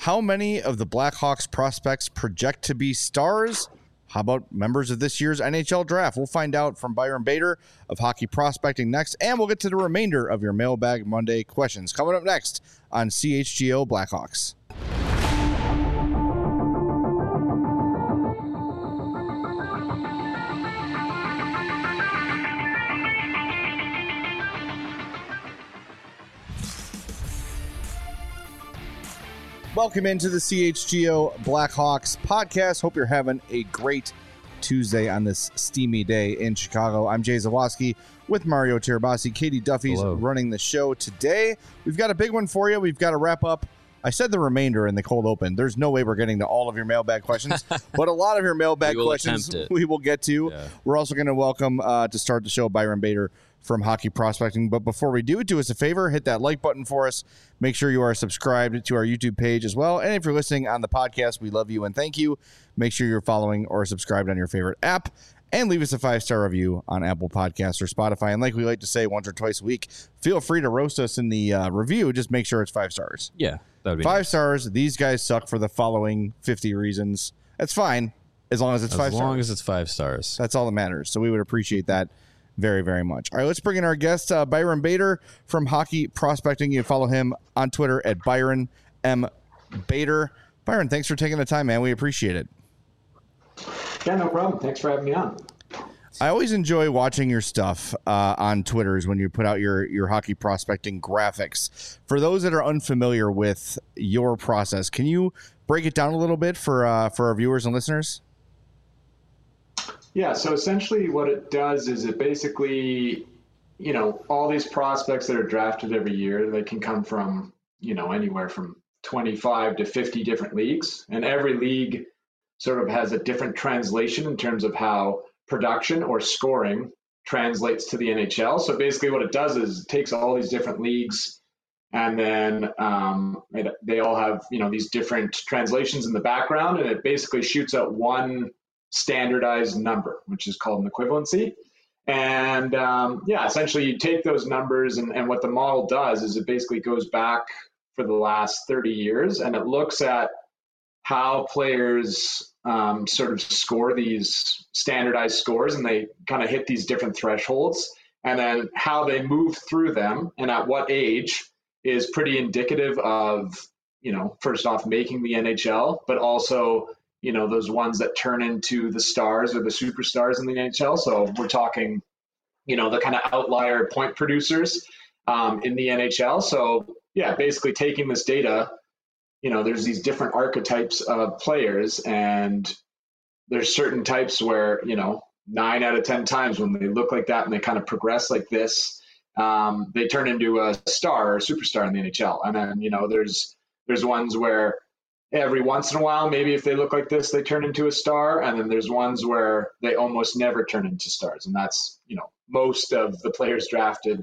How many of the Blackhawks prospects project to be stars? How about members of this year's NHL draft? We'll find out from Byron Bader of Hockey Prospecting next, and we'll get to the remainder of your Mailbag Monday questions coming up next on CHGO Blackhawks. Welcome into the CHGO Blackhawks podcast. Hope you're having a great Tuesday on this steamy day in Chicago. I'm Jay Zawaski with Mario Tirabassi. Katie Duffy's running the show today. We've got a big one for you. We've got to wrap up. I said the remainder in the cold open. There's no way we're getting to all of your mailbag questions, but a lot of your mailbag questions we will get to. Yeah. We're also going to welcome to start the show Byron Bader from Hockey Prospecting. But before we do us a favor, hit that like button for us. Make sure you are subscribed to our YouTube page as well. And if you're listening on the podcast, we love you and thank you. Make sure you're following or subscribed on your favorite app. And leave us a 5-star review on Apple Podcasts or Spotify. And like we like to say once or twice a week, feel free to roast us in the review. Just make sure it's 5 stars. Yeah, that would be 5 nice. stars. These guys suck for the following 50 reasons. That's fine as long as it's 5 stars. As long as it's 5 stars. That's all that matters. So we would appreciate that very, very much. All right, let's bring in our guest, Byron Bader from Hockey Prospecting. You can follow him on Twitter at Byron M. Bader. Byron, thanks for taking the time, man. We appreciate it. Yeah, no problem. Thanks for having me on. I always enjoy watching your stuff on Twitters when you put out your hockey prospecting graphics. For those that are unfamiliar with your process, can you break it down a little bit for our viewers and listeners? Yeah, so essentially what it does is it basically, all these prospects that are drafted every year, they can come from, anywhere from 25 to 50 different leagues. And every league sort of has a different translation in terms of how production or scoring translates to the NHL. So basically what it does is it takes all these different leagues and then they all have, these different translations in the background, and it basically shoots out one standardized number, which is called an equivalency. And essentially you take those numbers and what the model does is it basically goes back for the last 30 years and it looks at how players sort of score these standardized scores, and they kind of hit these different thresholds, and then how they move through them and at what age is pretty indicative of, first off, making the NHL, but also, those ones that turn into the stars or the superstars in the NHL. So we're talking, the kind of outlier point producers in the NHL. So yeah, basically taking this data, there's these different archetypes of players, and there's certain types where, 9 out of 10 times when they look like that and they kind of progress like this, they turn into a star or superstar in the NHL. And then, there's ones where every once in a while, maybe if they look like this, they turn into a star. And then there's ones where they almost never turn into stars. And that's, most of the players drafted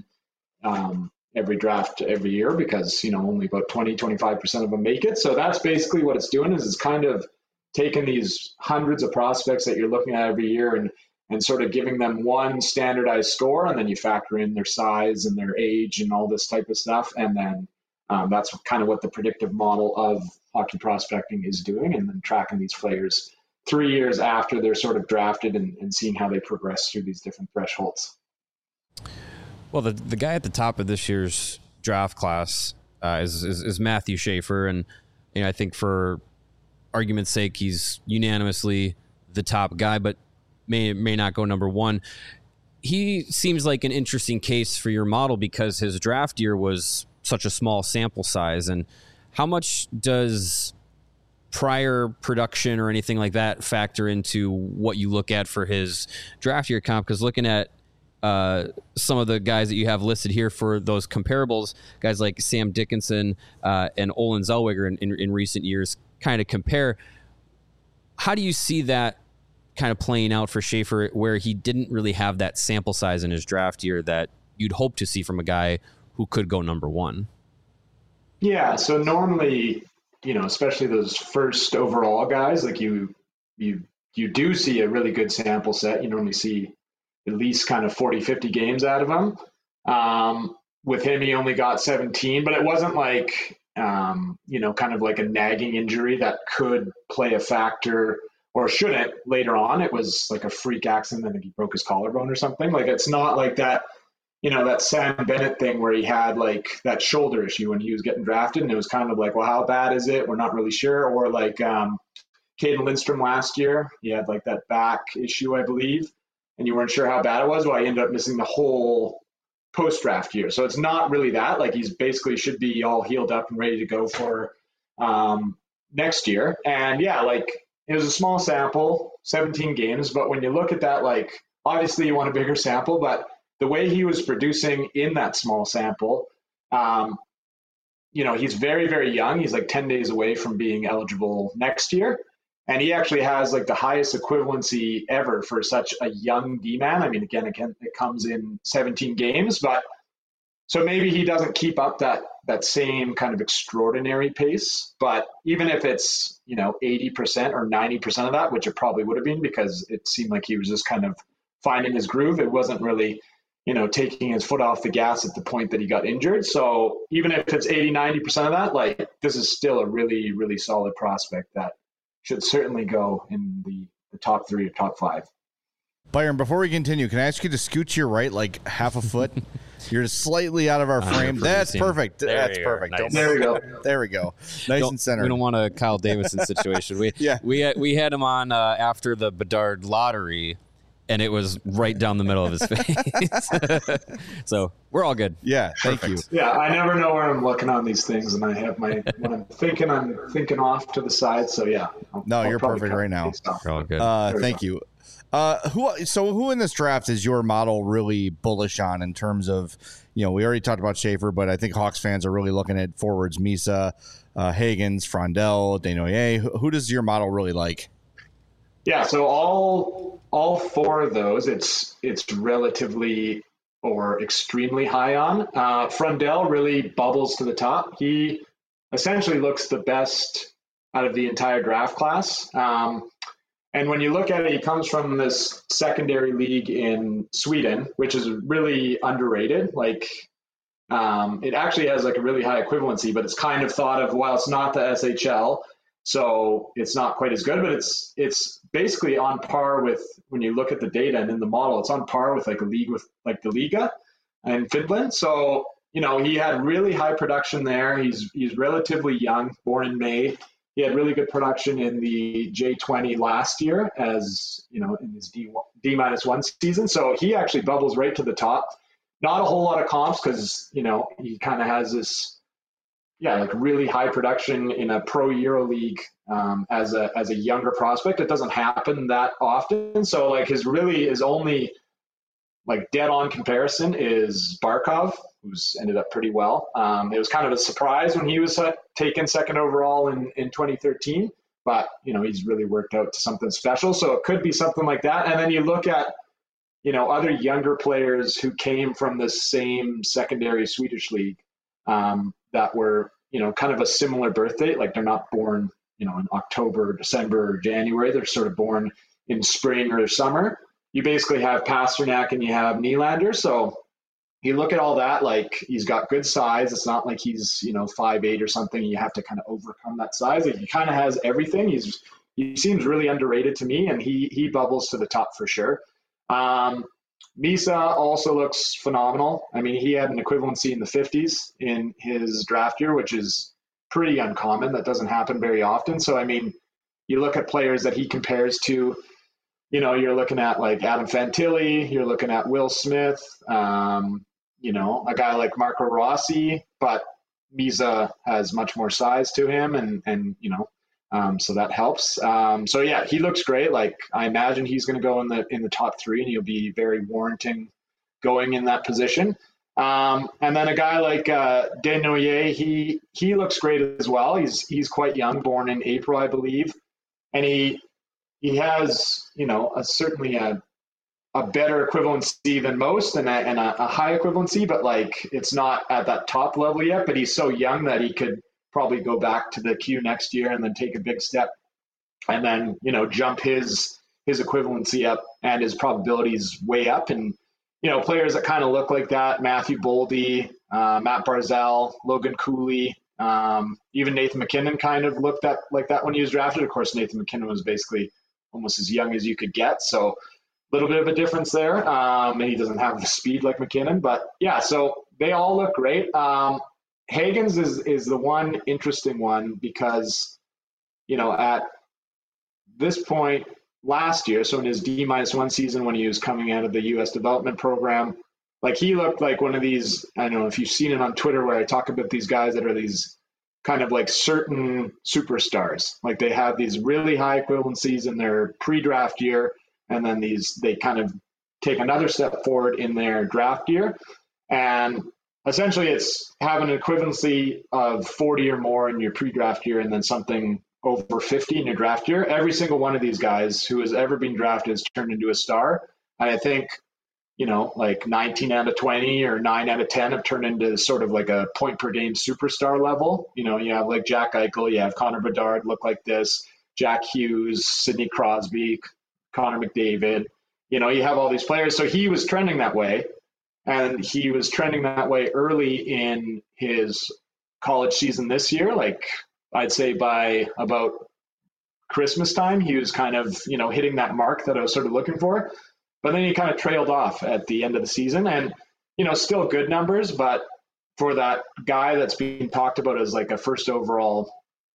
every draft every year, because, only about 25% of them make it. So that's basically what it's doing, is it's kind of taking these hundreds of prospects that you're looking at every year and sort of giving them one standardized score. And then you factor in their size and their age and all this type of stuff. And then that's kind of what the predictive model of hockey prospecting is doing, and then tracking these players 3 years after they're sort of drafted and seeing how they progress through these different thresholds. Well, the guy at the top of this year's draft class is Matthew Schaefer, and I think for argument's sake, he's unanimously the top guy, but may not go number one. He seems like an interesting case for your model because his draft year was such a small sample size. And how much does prior production or anything like that factor into what you look at for his draft year comp? Because looking at some of the guys that you have listed here for those comparables, guys like Sam Dickinson and Olen Zellweger in recent years kind of compare. How do you see that kind of playing out for Schaefer, where he didn't really have that sample size in his draft year that you'd hope to see from a guy who could go number one? Yeah, so normally, especially those first overall guys, like you do see a really good sample set. You normally see at least kind of 40, 50 games out of him. With him, he only got 17, but it wasn't like, kind of like a nagging injury that could play a factor or shouldn't later on. It was like a freak accident. I think he broke his collarbone or something. Like, it's not like that, that Sam Bennett thing where he had like that shoulder issue when he was getting drafted. And it was kind of like, well, how bad is it? We're not really sure. Or like Caden Lindstrom last year, he had like that back issue, I believe, and you weren't sure how bad it was. Well, I ended up missing the whole post-draft year. So it's not really that. Like, he's basically should be all healed up and ready to go for next year. And yeah, like, it was a small sample, 17 games. But when you look at that, like, obviously you want a bigger sample, but the way he was producing in that small sample, he's very, very young. He's like 10 days away from being eligible next year. And he actually has like the highest equivalency ever for such a young D-man. I mean, again, it comes in 17 games, but so maybe he doesn't keep up that same kind of extraordinary pace. But even if it's, 80% or 90% of that, which it probably would have been because it seemed like he was just kind of finding his groove. It wasn't really, taking his foot off the gas at the point that he got injured. So even if it's 80, 90% of that, like, this is still a really, really solid prospect that should certainly go in the top 3 or top 5. Byron, before we continue, can I ask you to scoot to your right like half a foot? You're just slightly out of our frame. That's perfect. That's perfect. Nice. There we go. There we go. Nice and center. We don't want a Kyle Davidson situation. We had him on after the Bedard lottery, and it was right down the middle of his face. So we're all good. Yeah, thank you. Yeah, I never know where I'm looking on these things, and I have when I'm thinking off to the side. So yeah. You're perfect right now. We're all good. Thank you. Who in this draft is your model really bullish on in terms of, we already talked about Schaefer, but I think Hawks fans are really looking at forwards, Misa, Higgins, Frondell, Desnoyers. Who does your model really like? Yeah, so all 4 of those, it's relatively or extremely high on. Frondell really bubbles to the top. He essentially looks the best out of the entire draft class. And when you look at it, he comes from this secondary league in Sweden, which is really underrated. Like, it actually has like a really high equivalency, but it's kind of thought of, well, it's not the SHL, so it's not quite as good, but it's basically on par with, when you look at the data and in the model, it's on par with like a league with like the Liga in Finland. So, he had really high production there. He's relatively young, born in May. He had really good production in the J20 last year as, in his D-1 season. So he actually bubbles right to the top. Not a whole lot of comps because, he kind of has this, like really high production in a pro Euro league as a younger prospect. It doesn't happen that often. So like his only like dead on comparison is Barkov, who's ended up pretty well. It was kind of a surprise when he was taken second overall in 2013, but he's really worked out to something special. So it could be something like that. And then you look at, other younger players who came from the same secondary Swedish league that were, kind of a similar birth date. Like, they're not born, in October, December, or January. They're sort of born in spring or summer. You basically have Pasternak and you have Nylander. So you look at all that, like, he's got good size. It's not like he's, 5'8" or something. You have to kind of overcome that size. Like, he kind of has everything. He seems really underrated to me, and he bubbles to the top for sure. Misa also looks phenomenal. I mean, he had an equivalency in the 50s in his draft year, which is pretty uncommon. That doesn't happen very often. So, I mean, you look at players that he compares to, you're looking at like Adam Fantilli, you're looking at Will Smith, a guy like Marco Rossi, but Misa has much more size to him and so that helps. So yeah, he looks great. Like, I imagine he's going to go in the top 3 and he'll be very warranting going in that position. And then a guy like Desnoyers, he looks great as well. He's quite young, born in April, I believe. And he has, certainly a better equivalency than most and a high equivalency, but like, it's not at that top level yet, but he's so young that he could probably go back to the Q next year and then take a big step and then, jump his equivalency up and his probabilities way up. And, players that kind of look like that, Matthew Boldy, Matt Barzal, Logan Cooley, Even Nathan McKinnon kind of looked at like that when he was drafted. Of course, Nathan McKinnon was basically almost as young as you could get. So a little bit of a difference there. And he doesn't have the speed like McKinnon. But yeah, so they all look great. Hagens is the one interesting one because, at this point last year, so in his D-1 season when he was coming out of the U.S. development program, like he looked like one of these, I don't know if you've seen it on Twitter where I talk about these guys that are these kind of like certain superstars. Like they have these really high equivalencies in their pre-draft year, and then they kind of take another step forward in their draft year. And essentially it's having an equivalency of 40 or more in your pre-draft year and then something over 50 in your draft year. Every single one of these guys who has ever been drafted has turned into a star. And I think, like 19 out of 20 or 9 out of 10 have turned into sort of like a point per game superstar level. You have like Jack Eichel, you have Connor Bedard look like this, Jack Hughes, Sidney Crosby, Connor McDavid. You have all these players. So he was trending that way. And he was trending that way early in his college season this year. Like I'd say by about Christmas time, he was kind of, hitting that mark that I was sort of looking for. But then he kind of trailed off at the end of the season and, still good numbers. But for that guy that's being talked about as like a first overall,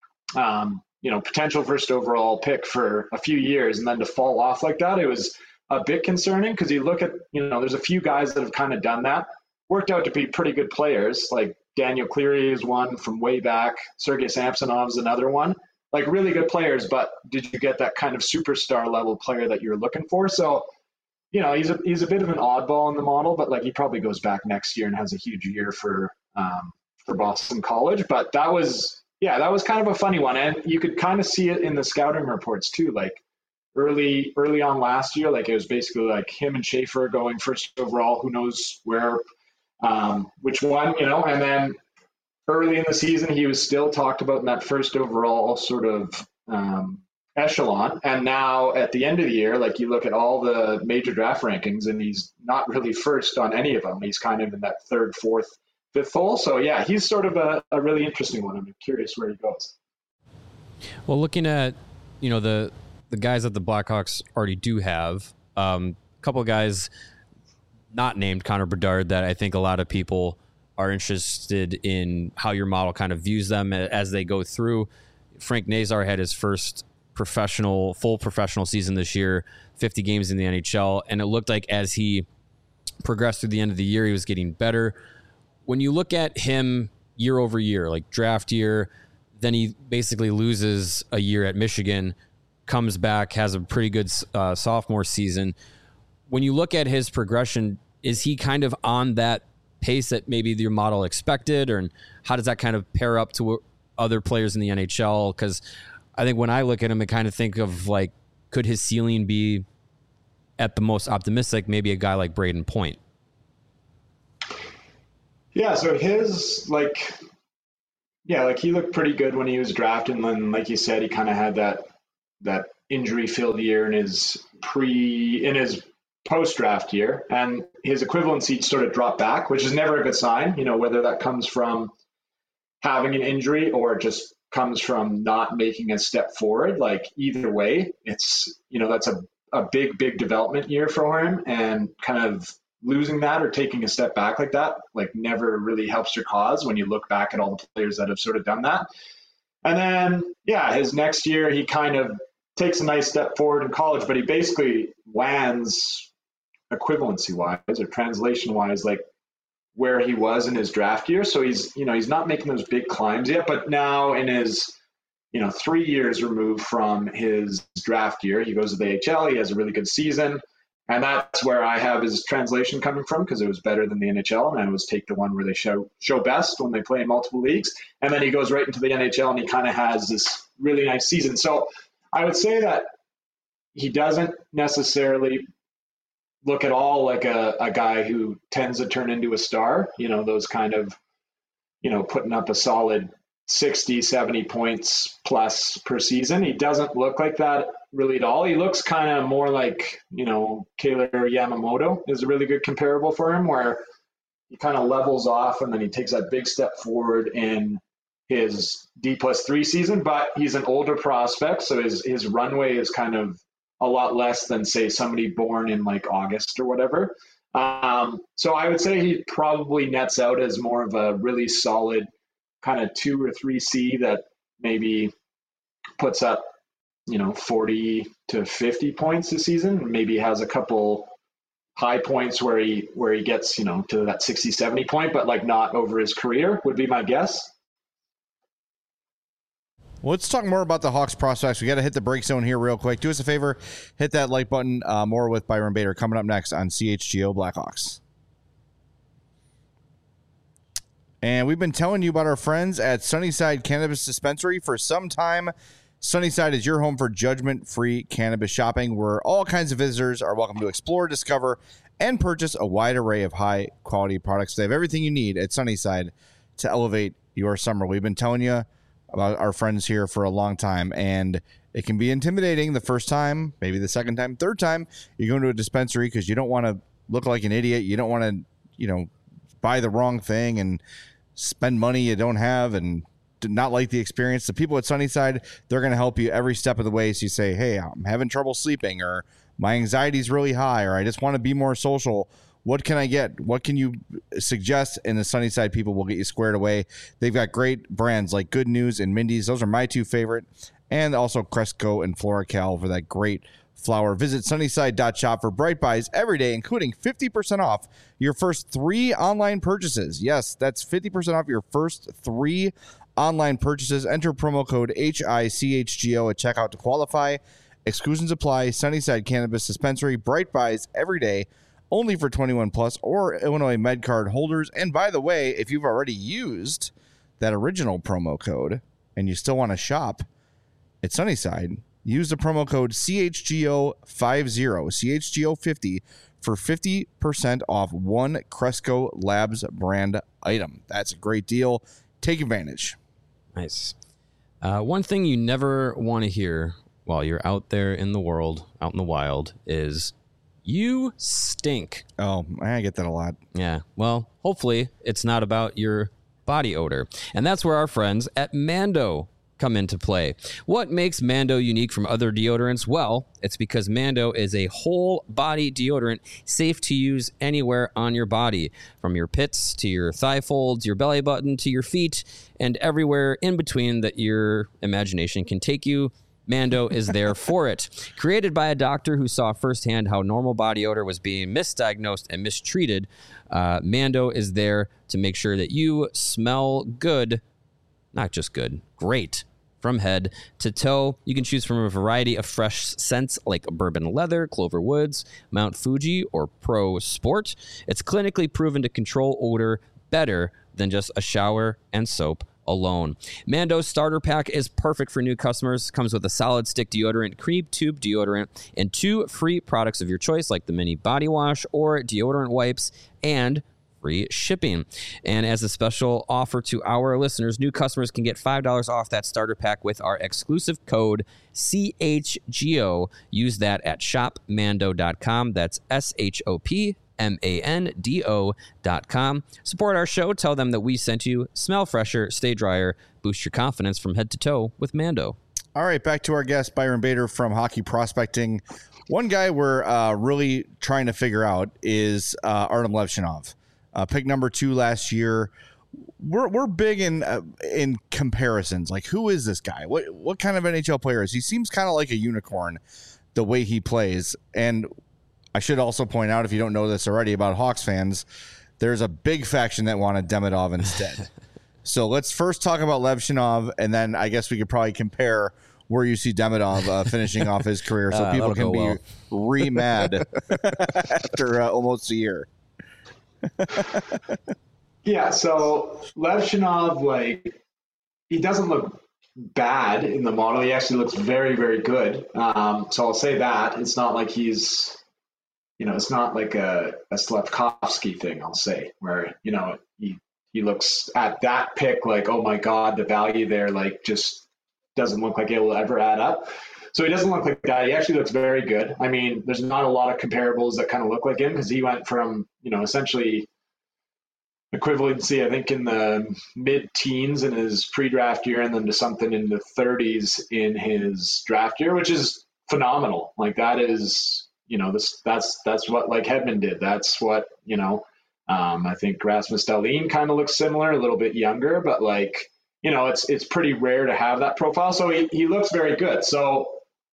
potential first overall pick for a few years and then to fall off like that, it was a bit concerning because you look at, there's a few guys that have kind of done that, worked out to be pretty good players. Like Daniel Cleary is one from way back. Sergei Samsonov is another one. Like really good players, but did you get that kind of superstar level player that you're looking for? So, he's a bit of an oddball in the model, but like he probably goes back next year and has a huge year for Boston College. But that was kind of a funny one, and you could kind of see it in the scouting reports too. Like early on last year, like it was basically like him and Schaefer going first overall. Who knows where, which one, and then early in the season, he was still talked about in that first overall sort of echelon. And now at the end of the year, like you look at all the major draft rankings and he's not really first on any of them. He's kind of in that third, fourth, fifth hole. So yeah, he's sort of a really interesting one. I'm curious where he goes. Well, looking at, the guys that the Blackhawks already do have, a couple of guys not named Connor Bedard that I think a lot of people are interested in how your model kind of views them as they go through. Frank Nazar had his first full professional season this year, 50 games in the NHL, and it looked like as he progressed through the end of the year, he was getting better. When you look at him year over year, like draft year, then he basically loses a year at Michigan, comes back, has a pretty good sophomore season. When you look at his progression, is he kind of on that pace that maybe your model expected, or how does that kind of pair up to other players in the NHL? Because I think when I look at him, I kind of think of like, could his ceiling be at the most optimistic, maybe a guy like Braden Point? Yeah, so his he looked pretty good when he was drafted, and then like you said, he kind of had that injury-filled year in his post-draft year, and his equivalency sort of dropped back, which is never a good sign, whether that comes from having an injury or just comes from not making a step forward. Like either way, it's, that's a big development year for him, and kind of losing that or taking a step back like that, like never really helps your cause when you look back at all the players that have sort of done that. And then, his next year, he kind of takes a nice step forward in college, but he basically lands equivalency wise or translation wise, like where he was in his draft year. So he's not making those big climbs yet, but now in his, 3 years removed from his draft year, he goes to the AHL, he has a really good season. And that's where I have his translation coming from, because it was better than the NHL. And I always take the one where they show best when they play in multiple leagues. And then he goes right into the NHL and he kind of has this really nice season. So I would say that he doesn't necessarily look at all like a guy who tends to turn into a star, those kind of, putting up a solid 60, 70 points plus per season. He doesn't look like that really at all. He looks kind of more like, Kailer Yamamoto is a really good comparable for him, where he kind of levels off and then he takes that big step forward in his D+3 season, but he's an older prospect, so his runway is kind of a lot less than, say, somebody born in like August or whatever. So I would say he probably nets out as more of a really solid kind of 2 or 3C that maybe puts up, 40 to 50 points a season. Maybe has a couple high points where he gets, to that 60, 70 point, but like not over his career would be my guess. Well, let's talk more about the Hawks prospects. We got to hit the break zone here real quick. Do us a favor, hit that like button. More with Byron Bader coming up next on CHGO Blackhawks. And we've been telling you about our friends at Sunnyside Cannabis Dispensary for some time. Sunnyside is your home for judgment-free cannabis shopping, where all kinds of visitors are welcome to explore, discover, and purchase a wide array of high-quality products. They have everything you need at Sunnyside to elevate your summer. We've been telling you about our friends here for a long time, and it can be intimidating the first time, maybe the second time, third time you go into a dispensary because you don't want to look like an idiot. You don't want to, buy the wrong thing and spend money you don't have and not like the experience. The people at Sunnyside, they're going to help you every step of the way. So you say, hey, I'm having trouble sleeping, or my anxiety is really high, or I just want to be more social. What can I get? What can you suggest? And the Sunnyside people will get you squared away. They've got great brands like Good News and Mindy's. Those are my two favorite. And also Cresco and FloraCal for that great flower. Visit Sunnyside.shop for Bright Buys every day, including 50% off your first 3 online purchases. Yes, that's 50% off your first 3 online purchases. Enter promo code HICHGO at checkout to qualify. Exclusions apply. Sunnyside Cannabis Dispensary. Bright Buys every day. Only for 21 plus or Illinois MedCard holders. And by the way, if you've already used that original promo code and you still want to shop at Sunnyside, use the promo code CHGO50, CHGO50 for 50% off one Cresco Labs brand item. That's a great deal. Take advantage. Nice. One thing you never want to hear while you're out there in the world, out in the wild, is you stink. Oh, I get that a lot. Yeah. Well, hopefully it's not about your body odor. And that's where our friends at Mando come into play. What makes Mando unique from other deodorants? Well, it's because Mando is a whole body deodorant, safe to use anywhere on your body, from your pits to your thigh folds, your belly button to your feet, and everywhere in between that your imagination can take you. Mando is there for it. Created by a doctor who saw firsthand how normal body odor was being misdiagnosed and mistreated, Mando is there to make sure that you smell good, not just good, great. From head to toe, you can choose from a variety of fresh scents like bourbon leather, Clover Woods, Mount Fuji, or Pro Sport. It's clinically proven to control odor better than just a shower and soap alone. Mando's starter pack is perfect for new customers. Comes with a solid stick deodorant, cream tube deodorant, and 2 free products of your choice, like the mini body wash or deodorant wipes, and free shipping. And as a special offer to our listeners, new customers can get $5 off that starter pack with our exclusive code CHGO. Use that at shopmando.com. That's SHOPMANDO.com. Support our show. Tell them that we sent you. Smell fresher, stay drier, boost your confidence from head to toe with Mando. All right, back to our guest, Byron Bader from Hockey Prospecting. One guy we're really trying to figure out is Artem Levshunov. Pick number 2 last year. We're big in comparisons. Like, who is this guy? What kind of NHL player is he? Seems kind of like a unicorn the way he plays. And I should also point out, if you don't know this already about Hawks fans, there's a big faction that wanted Demidov instead. So let's first talk about Levshunov, and then I guess we could probably compare where you see Demidov finishing off his career, so people can be re-mad after almost a year. Yeah, so Levshunov, he doesn't look bad in the model. He actually looks very, very good. So I'll say that. It's not like he's, it's not like a Slavkovsky thing, I'll say, where, he looks at that pick like, oh my God, the value there, just doesn't look like it will ever add up. So he doesn't look like that. He actually looks very good. I mean, there's not a lot of comparables that kind of look like him, because he went from, essentially a equivalency, I think, in the mid-teens in his pre-draft year, and then to something in the 30s in his draft year, which is phenomenal. Like that is, that's what like Hedman did. That's what, I think Rasmus Dahlin kind of looks similar, a little bit younger, but like, it's pretty rare to have that profile. So he looks very good. So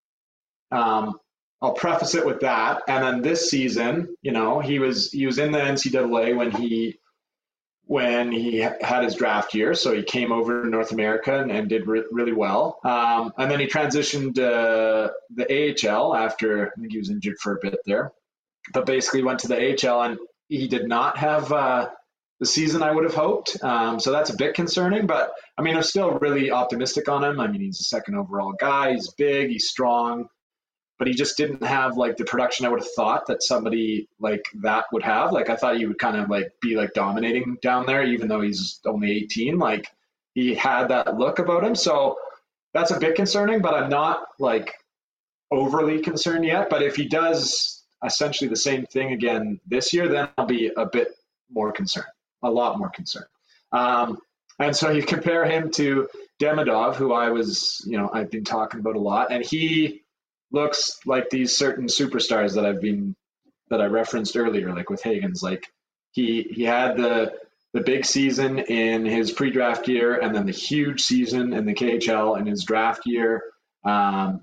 I'll preface it with that. And then this season, he was in the NCAA when he had his draft year. So he came over to North America and did really well. And then he transitioned to the AHL after, I think he was injured for a bit there, but basically went to the AHL, and he did not have the season I would have hoped. So that's a bit concerning, but I mean, I'm still really optimistic on him. I mean, he's a second overall guy. He's big, he's strong, but he just didn't have like the production I would have thought that somebody like that would have. Like I thought he would kind of like be like dominating down there, even though he's only 18. Like he had that look about him. So that's a bit concerning, but I'm not like overly concerned yet. But if he does essentially the same thing again this year, then I'll be a bit more concerned, a lot more concerned. And so you compare him to Demidov, who I've been talking about a lot, and he looks like these certain superstars that I referenced earlier, like with Hagens. Like he had the big season in his pre-draft year, and then the huge season in the KHL in his draft year, and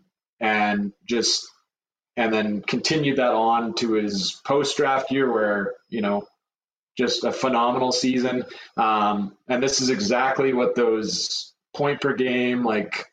then continued that on to his post-draft year, where just a phenomenal season. And this is exactly what those point per game, like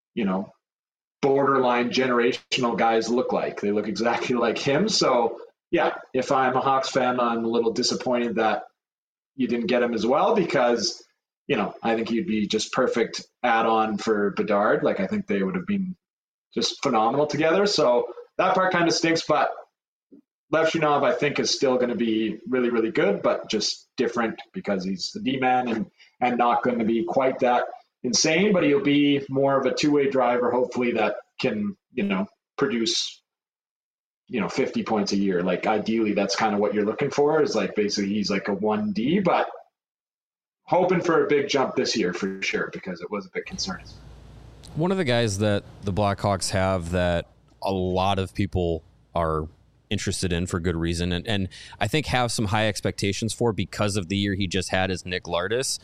borderline generational guys look like. They look exactly like him. So yeah, if I'm a Hawks fan, I'm a little disappointed that you didn't get him as well, because I think he'd be just perfect add-on for Bedard. Like I think they would have been just phenomenal together. So that part kind of stinks, but Levshunov I think is still going to be really, really good, but just different because he's the D-man and not going to be quite that insane, but he'll be more of a two-way driver, hopefully, that can, produce, 50 points a year. Like ideally, that's kind of what you're looking for, is like basically he's like a 1D, but hoping for a big jump this year for sure, because it was a bit concerning. One of the guys that the Blackhawks have that a lot of people are interested in for good reason, and I think have some high expectations for because of the year he just had, is Nick Lardis.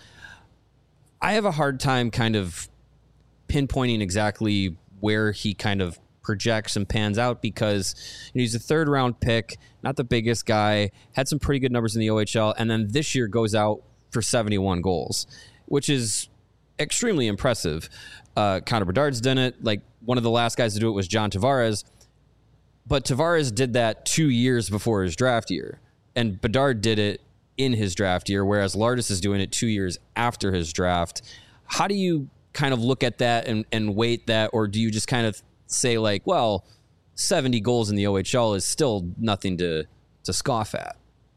I have a hard time kind of pinpointing exactly where he kind of projects and pans out, because he's a third round pick, not the biggest guy, had some pretty good numbers in the OHL, and then this year goes out for 71 goals, which is extremely impressive. Connor Bedard's done it. Like one of the last guys to do it was John Tavares, but Tavares did that 2 years before his draft year, and Bedard did it in his draft year, whereas Lardis is doing it 2 years after his draft. How do you kind of look at that and weight that, or do you just kind of say like, well, 70 goals in the OHL is still nothing to scoff at?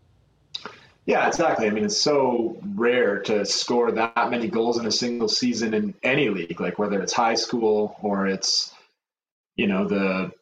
Yeah, exactly. I mean, it's so rare to score that many goals in a single season in any league, like whether it's high school or it's, the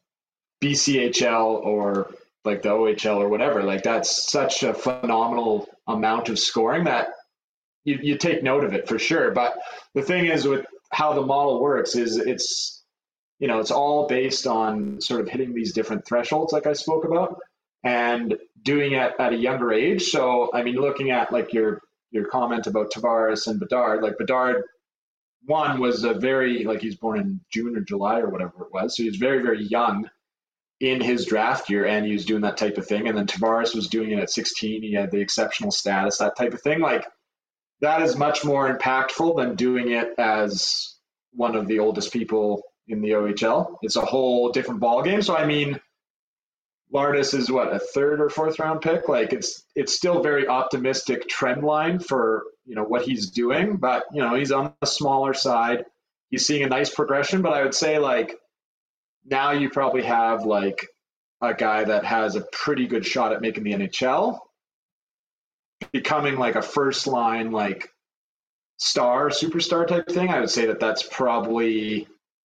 BCHL or like the OHL or whatever. Like that's such a phenomenal amount of scoring that you take note of it for sure. But the thing is, with how the model works is it's all based on sort of hitting these different thresholds like I spoke about and doing it at a younger age. So, I mean, looking at like your comment about Tavares and Bedard, like Bedard, one was he's born in June or July or whatever it was. So he was very, very young in his draft year, and he was doing that type of thing. And then Tavares was doing it at 16. He had the exceptional status, that type of thing. Like that is much more impactful than doing it as one of the oldest people in the OHL. It's a whole different ballgame. So, I mean, Lardis is a third or fourth round pick. Like it's still very optimistic trend line for, what he's doing, but he's on the smaller side. He's seeing a nice progression, but I would say like now you probably have like a guy that has a pretty good shot at making the NHL, becoming like a first line, like superstar type thing. I would say that's probably,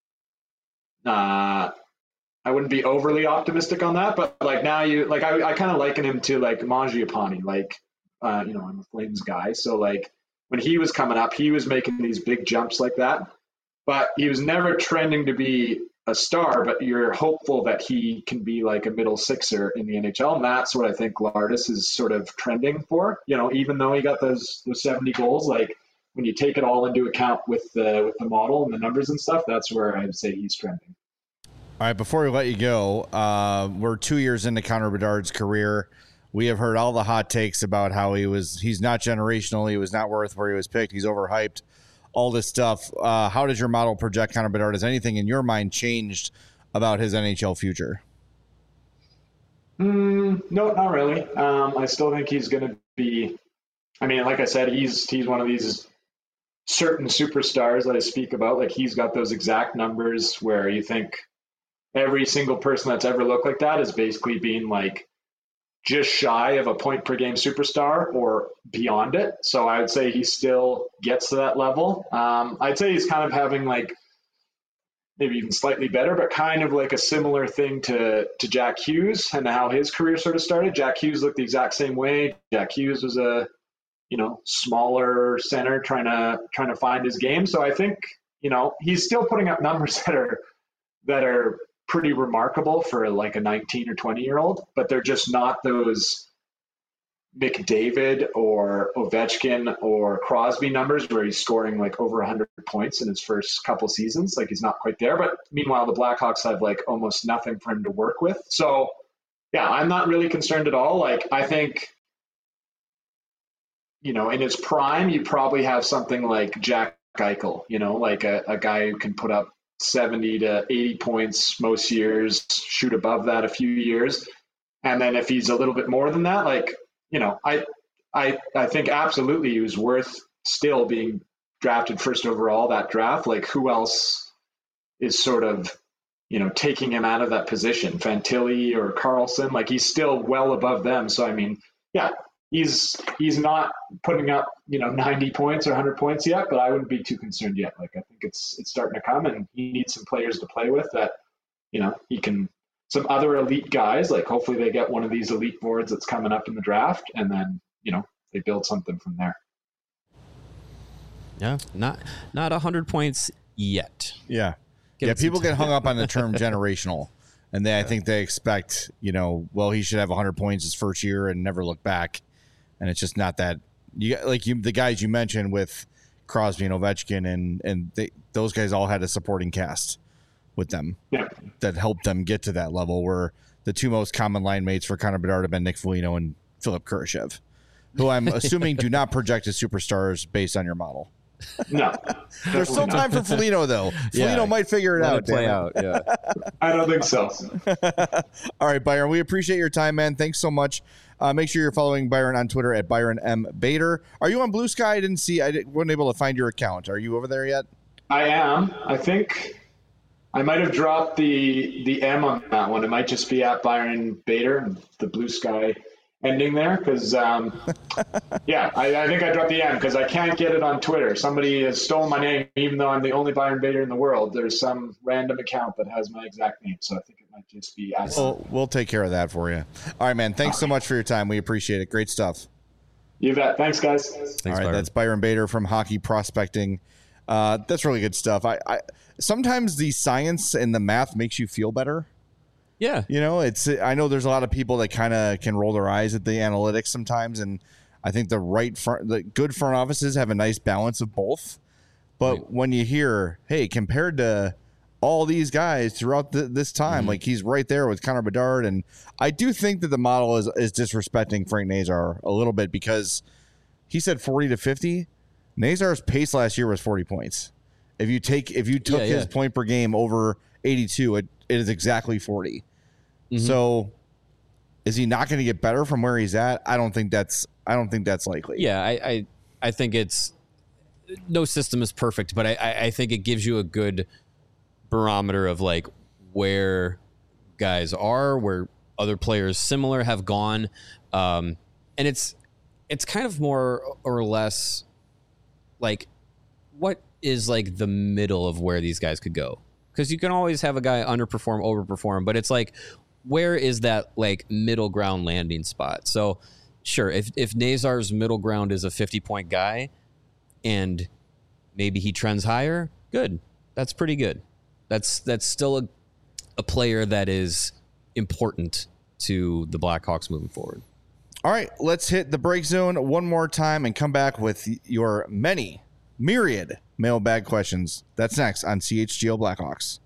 I wouldn't be overly optimistic on that, but like now I kind of liken him to like Mangiapane, like I'm a Flames guy. So like when he was coming up, he was making these big jumps like that, but he was never trending to be a star, but you're hopeful that he can be like a middle sixer in the NHL. And that's what I think Lardis is sort of trending for, even though he got those 70 goals, like when you take it all into account with the model and the numbers and stuff, that's where I'd say he's trending. All right, before we let you go, we're 2 years into Connor Bedard's career. We have heard all the hot takes about how he's not generational, he was not worth where he was picked, he's overhyped, all this stuff. How does your model project Connor Bedard? Has anything in your mind changed about his NHL future? No, not really. I still think he's going to be, like I said, he's one of these certain superstars that I speak about. Like he's got those exact numbers where you think every single person that's ever looked like that is basically being like just shy of a point per game superstar or beyond it. So I would say he still gets to that level. I'd say he's kind of having like maybe even slightly better, but kind of like a similar thing to Jack Hughes and how his career sort of started. Jack Hughes looked the exact same way. Jack Hughes was a, smaller center trying to find his game. So I think, he's still putting up numbers that are pretty remarkable for like a 19 or 20-year-old, but they're just not those McDavid or Ovechkin or Crosby numbers where he's scoring like over 100 points in his first couple seasons. Like he's not quite there, but meanwhile, the Blackhawks have like almost nothing for him to work with. So yeah, I'm not really concerned at all. Like I think, in his prime, you probably have something like Jack Eichel, like a guy who can put up 70 to 80 points most years, shoot above that a few years. And then if he's a little bit more than that, like, I think absolutely he was worth still being drafted first overall that draft. Like who else is sort of, taking him out of that position? Fantilli or Carlson, like he's still well above them. So, yeah, he's not putting up, 90 points or 100 points yet, but I wouldn't be too concerned yet. Like I think it's starting to come, and he needs some players to play with that, he can, some other elite guys, like hopefully they get one of these elite boards that's coming up in the draft, and then, they build something from there. Yeah. Not 100 points yet. Yeah. People get hung up on the term generational. And I think they expect, he should have 100 points his first year and never look back. And it's just not that. The guys you mentioned with Crosby and Ovechkin, and those guys all had a supporting cast with them that helped them get to that level, where the two most common line mates for Connor Bedard have been Nick Foligno and Philip Kurashev, who I'm assuming do not project as superstars based on your model. No. There's still time for Foligno, though. Foligno might figure it out. Play out. Yeah. I don't think so. All right, Byron, we appreciate your time, man. Thanks so much. Make sure you're following Byron on Twitter at Byron M. Bader. Are you on Blue Sky? I wasn't able to find your account. Are you over there yet? I am. I think I might have dropped the M on that one. It might just be at Byron Bader, the Blue Sky ending there, because I think I dropped the M because I can't get it on Twitter. Somebody has stolen my name, even though I'm the only Byron Bader in the world. There's some random account that has my exact name, so I think it might just be we'll take care of that for you. All right, man. Thanks so much for your time. We appreciate it. Great stuff. You bet. Thanks, guys. All right, Byron. That's Byron Bader from Hockey Prospecting. That's really good stuff. I sometimes the science and the math makes you feel better. Yeah. I know there's a lot of people that kind of can roll their eyes at the analytics sometimes, and I think the good front offices have a nice balance of both. But when you hear, hey, compared to all these guys throughout this time, like he's right there with Connor Bedard, and I do think that the model is disrespecting Frank Nazar a little bit, because he said 40 to 50. Nazar's pace last year was 40 points. If you took his point per game over 82, it is exactly 40. So is he not going to get better from where he's at? I don't think that's likely. Yeah, I think it's no system is perfect, but I think it gives you a good barometer of like where guys are, where other players similar have gone. And it's kind of more or less like what is like the middle of where these guys could go. Because you can always have a guy underperform, overperform, but it's like, where is that like middle ground landing spot? So sure, if Nazar's middle ground is a 50-point guy and maybe he trends higher, good. That's pretty good. That's still a player that is important to the Blackhawks moving forward. All right, let's hit the break zone one more time and come back with your myriad mailbag questions. That's next on CHGO Blackhawks.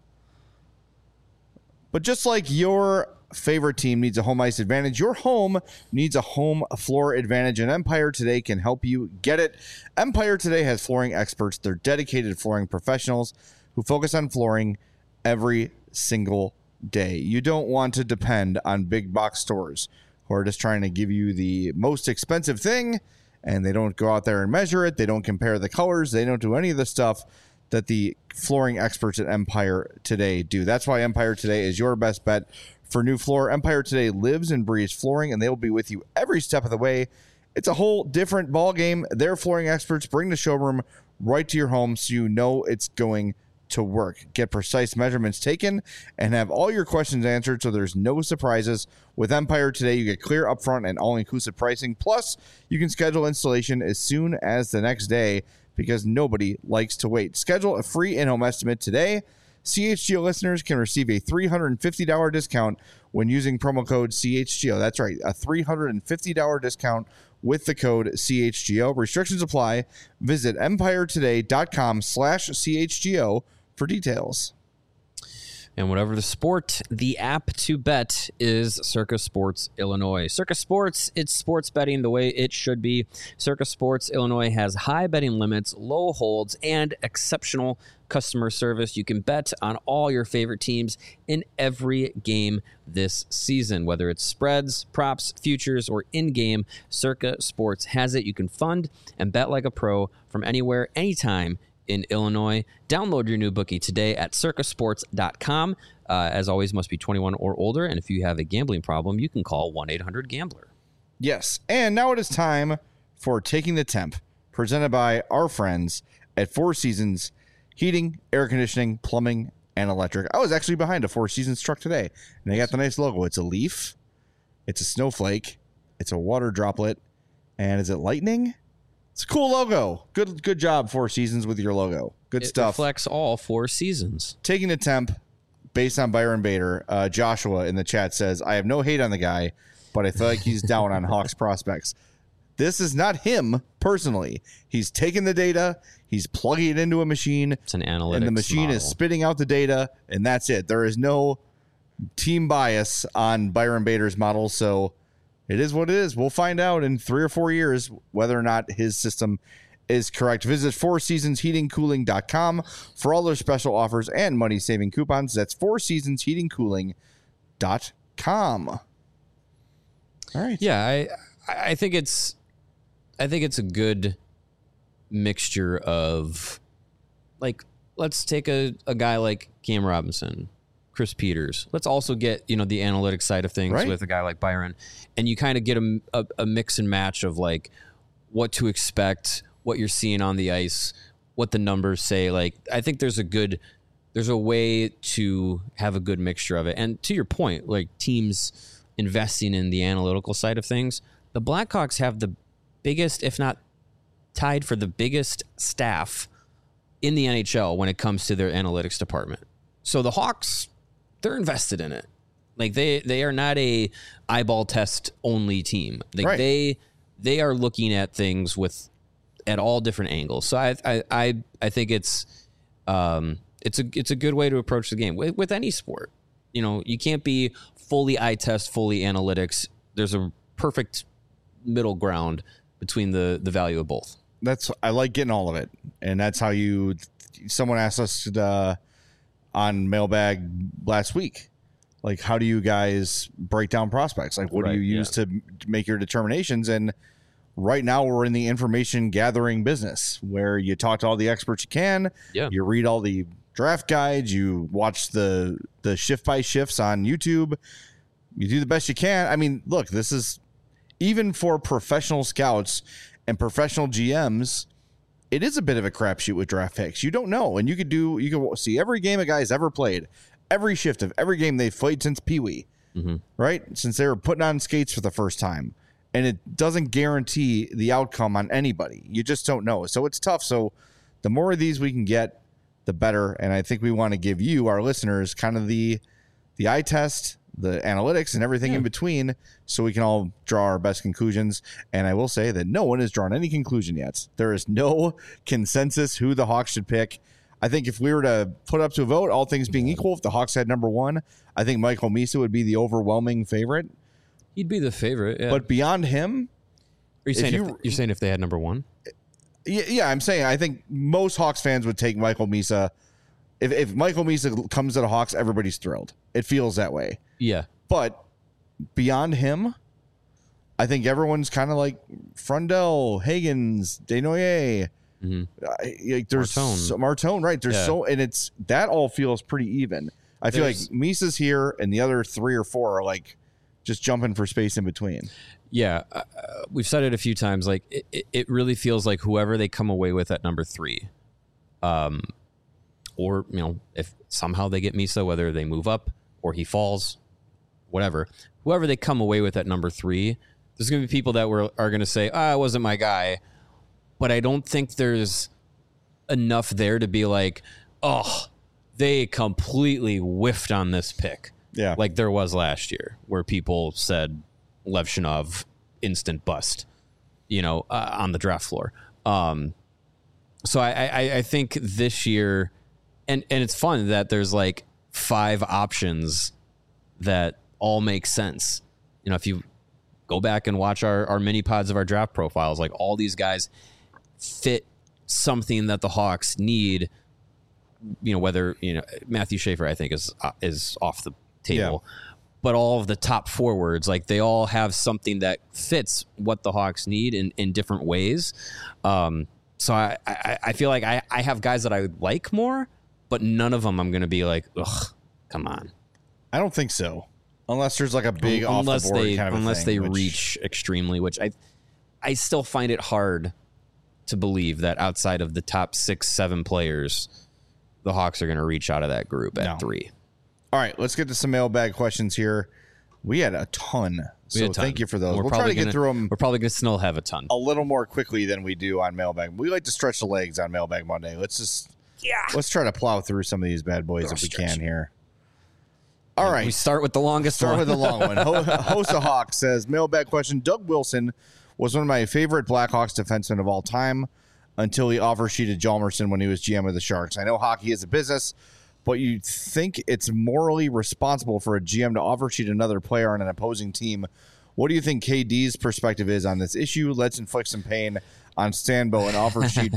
But just like your favorite team needs a home ice advantage, your home needs a home floor advantage, and Empire Today can help you get it. Empire Today has flooring experts. They're dedicated flooring professionals who focus on flooring every single day. You don't want to depend on big box stores who are just trying to give you the most expensive thing, and they don't go out there and measure it. They don't compare the colors. They don't do any of the stuff that the flooring experts at Empire Today do. That's why Empire Today is your best bet for new floor. Empire Today lives and breathes flooring, and they will be with you every step of the way. It's a whole different ball game. Their flooring experts bring the showroom right to your home so you know it's going to work. Get precise measurements taken and have all your questions answered so there's no surprises. With Empire Today, you get clear upfront and all-inclusive pricing. Plus, you can schedule installation as soon as the next day because nobody likes to wait. Schedule a free in-home estimate today. CHGO listeners can receive a $350 discount when using promo code CHGO. That's right, a $350 discount with the code CHGO. Restrictions apply. Visit empiretoday.com/CHGO for details. And whatever the sport, the app to bet is Circa Sports Illinois. Circa Sports, it's sports betting the way it should be. Circa Sports Illinois has high betting limits, low holds, and exceptional customer service. You can bet on all your favorite teams in every game this season, whether it's spreads, props, futures, or in-game. Circa Sports has it. You can fund and bet like a pro from anywhere, anytime in Illinois. Download your new bookie today at circasports.com. As always, must be 21 or older, and if you have a gambling problem, you can call 1-800-GAMBLER. Yes, and now it is time for Taking the Temp, presented by our friends at Four Seasons Heating, Air Conditioning, Plumbing, and Electric. I was actually behind a Four Seasons truck today, and they got the nice logo. It's a leaf, it's a snowflake, it's a water droplet, and is it lightning? It's a cool logo. Good job, Four Seasons, with your logo. Good stuff. It reflects all four seasons. Taking the Temp, based on Byron Bader. Joshua in the chat says, I have no hate on the guy, but I feel like he's down on Hawks prospects. This is not him personally. He's taking the data, he's plugging it into a machine. It's an analytics and the machine model. is spitting out the data, and that's it. There is no team bias on Byron Bader's model, so it is what it is. We'll find out in 3 or 4 years whether or not his system is correct. Visit fourseasonsheatingcooling.com for all their special offers and money-saving coupons. That's fourseasonsheatingcooling.com. All right. Yeah, I think it's a good mixture of, like, let's take a guy like Cam Robinson, Chris Peters. Let's also get, the analytics side of things with a guy like Byron. And you kind of get a mix and match of, like, what to expect, what you're seeing on the ice, what the numbers say. Like, I think there's a way to have a good mixture of it. And to your point, like, teams investing in the analytical side of things, the Blackhawks have the biggest, if not tied for the biggest staff in the NHL when it comes to their analytics department. So the Hawks, they're invested in it. Like, they are not a eyeball test only team. Like, right. They are looking at things at all different angles. So I think it's a good way to approach the game with any sport. You can't be fully eye test, fully analytics. There's a perfect middle ground between the value of both. I like getting all of it, and that's how someone asked us on Mailbag last week, like, how do you guys break down prospects? Like, what do you use to make your determinations? And right now we're in the information gathering business where you talk to all the experts you can. Yeah. You read all the draft guides. You watch the shift by shifts on YouTube. You do the best you can. I mean, look, this is, even for professional scouts and professional GMs, it is a bit of a crapshoot with draft picks. You don't know. And you could see every game a guy's ever played, every shift of every game they've played since Pee Wee, right? Since they were putting on skates for the first time. and it doesn't guarantee the outcome on anybody. You just don't know. So it's tough. So the more of these we can get, the better. And I think we want to give you, our listeners, kind of the eye test, the analytics, and everything in between, so we can all draw our best conclusions. And I will say that no one has drawn any conclusion yet. There is no consensus who the Hawks should pick. I think if we were to put up to a vote, all things being equal, if the Hawks had number one, I think Michael Misa would be the overwhelming favorite. He'd be the favorite, yeah. But beyond him, are you saying you're saying if they had number one? Yeah, I'm saying I think most Hawks fans would take Michael Misa. If Michael Misa comes to the Hawks, everybody's thrilled. It feels that way. Yeah. But beyond him, I think everyone's kind of like Frundell, Higgins, Desnoyers. There's Martone, right? There's and it's that all feels pretty even. I feel like Misa's here, and the other 3 or 4 are like just jumping for space in between. Yeah, we've said it a few times. Like it really feels like whoever they come away with at number 3, or if somehow they get Misa, whether they move up or he falls, whatever, whoever they come away with at number 3, there's going to be people that are going to say, it wasn't my guy. But I don't think there's enough there to be like, they completely whiffed on this pick. Yeah. Like there was last year where people said Lev Shinov instant bust, on the draft floor. So I think this year, and it's fun that there's like 5 options that all make sense. If you go back and watch our mini pods of our draft profiles, like all these guys fit something that the Hawks need, whether, Matthew Schaefer, I think is off the table, but all of the top forwards, like they all have something that fits what the Hawks need in different ways. So I feel like I have guys that I like more, but none of them I'm going to be like, ugh, come on. I don't think so. Unless there's like a big off the board kind of unless thing, they reach extremely, which I still find it hard to believe that outside of the top 6-7 players, the Hawks are going to reach out of that group at 3. All right, let's get to some mailbag questions here. We had a ton, so thank you for those. We'll try to get through them. We're probably going to still have a ton. A little more quickly than we do on Mailbag. We like to stretch the legs on Mailbag Monday. Let's try to plow through some of these bad boys if we can here. All right. We start with the longest one. Start with the long one. Hosa Hawk says, mailbag question, Doug Wilson was one of my favorite Blackhawks defensemen of all time until he offer sheeted Hjalmarsson when he was GM of the Sharks. I know hockey is a business, but you think it's morally responsible for a GM to offer sheet another player on an opposing team. What do you think KD's perspective is on this issue? Let's inflict some pain on Stanbo and offer sheet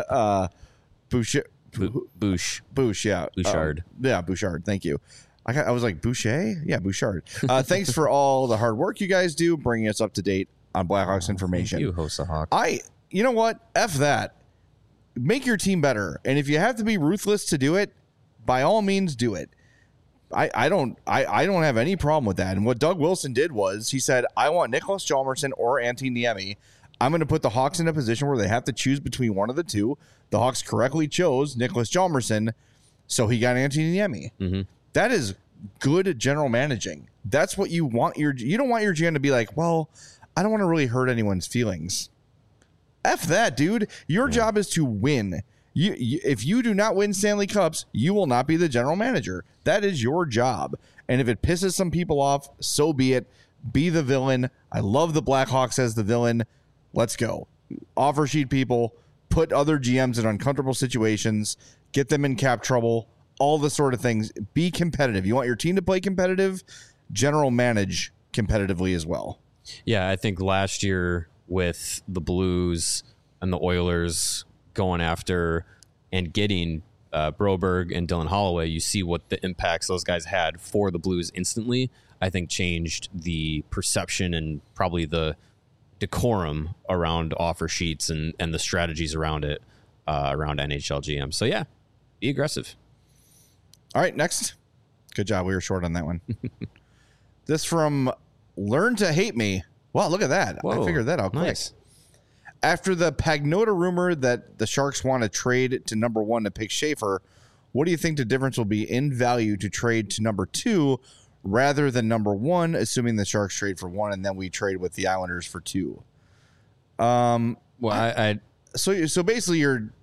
Bouchard. Bouchard. Thank you. I was like, Boucher? Yeah, Bouchard. Thanks for all the hard work you guys do, bringing us up to date on Blackhawks information. Thank you, Hosa Hawk. You know what? F that. Make your team better. And if you have to be ruthless to do it, by all means, do it. I don't have any problem with that. And what Doug Wilson did was he said, I want Nicholas Hjalmarsson or Antti Niemi. I'm going to put the Hawks in a position where they have to choose between one of the two. The Hawks correctly chose Nicholas Hjalmarsson, so he got Antti Niemi. Mm-hmm. That is good general managing. That's what you want. You don't want your GM to be like, well, I don't want to really hurt anyone's feelings. F that, dude. Your job is to win. If you do not win Stanley Cups, you will not be the general manager. That is your job. And if it pisses some people off, so be it. Be the villain. I love the Blackhawks as the villain. Let's go. Offer sheet people. Put other GMs in uncomfortable situations. Get them in cap trouble. All the sort of things. Be competitive. You want your team to play competitive? General manage competitively as well. Yeah, I think last year with the Blues and the Oilers going after and getting Broberg and Dylan Holloway, you see what the impacts those guys had for the Blues instantly. I think changed the perception and probably the decorum around offer sheets and the strategies around it, around NHL GM. So yeah, be aggressive. All right, next. Good job. We were short on that one. This from Learn to Hate Me. Wow, look at that. Whoa, I figured that out quick. Nice. After the Pagnotta rumor that the Sharks want to trade to number 1 to pick Schaefer, what do you think the difference will be in value to trade to number 2 rather than number 1, assuming the Sharks trade for 1 and then we trade with the Islanders for 2. Well, I So basically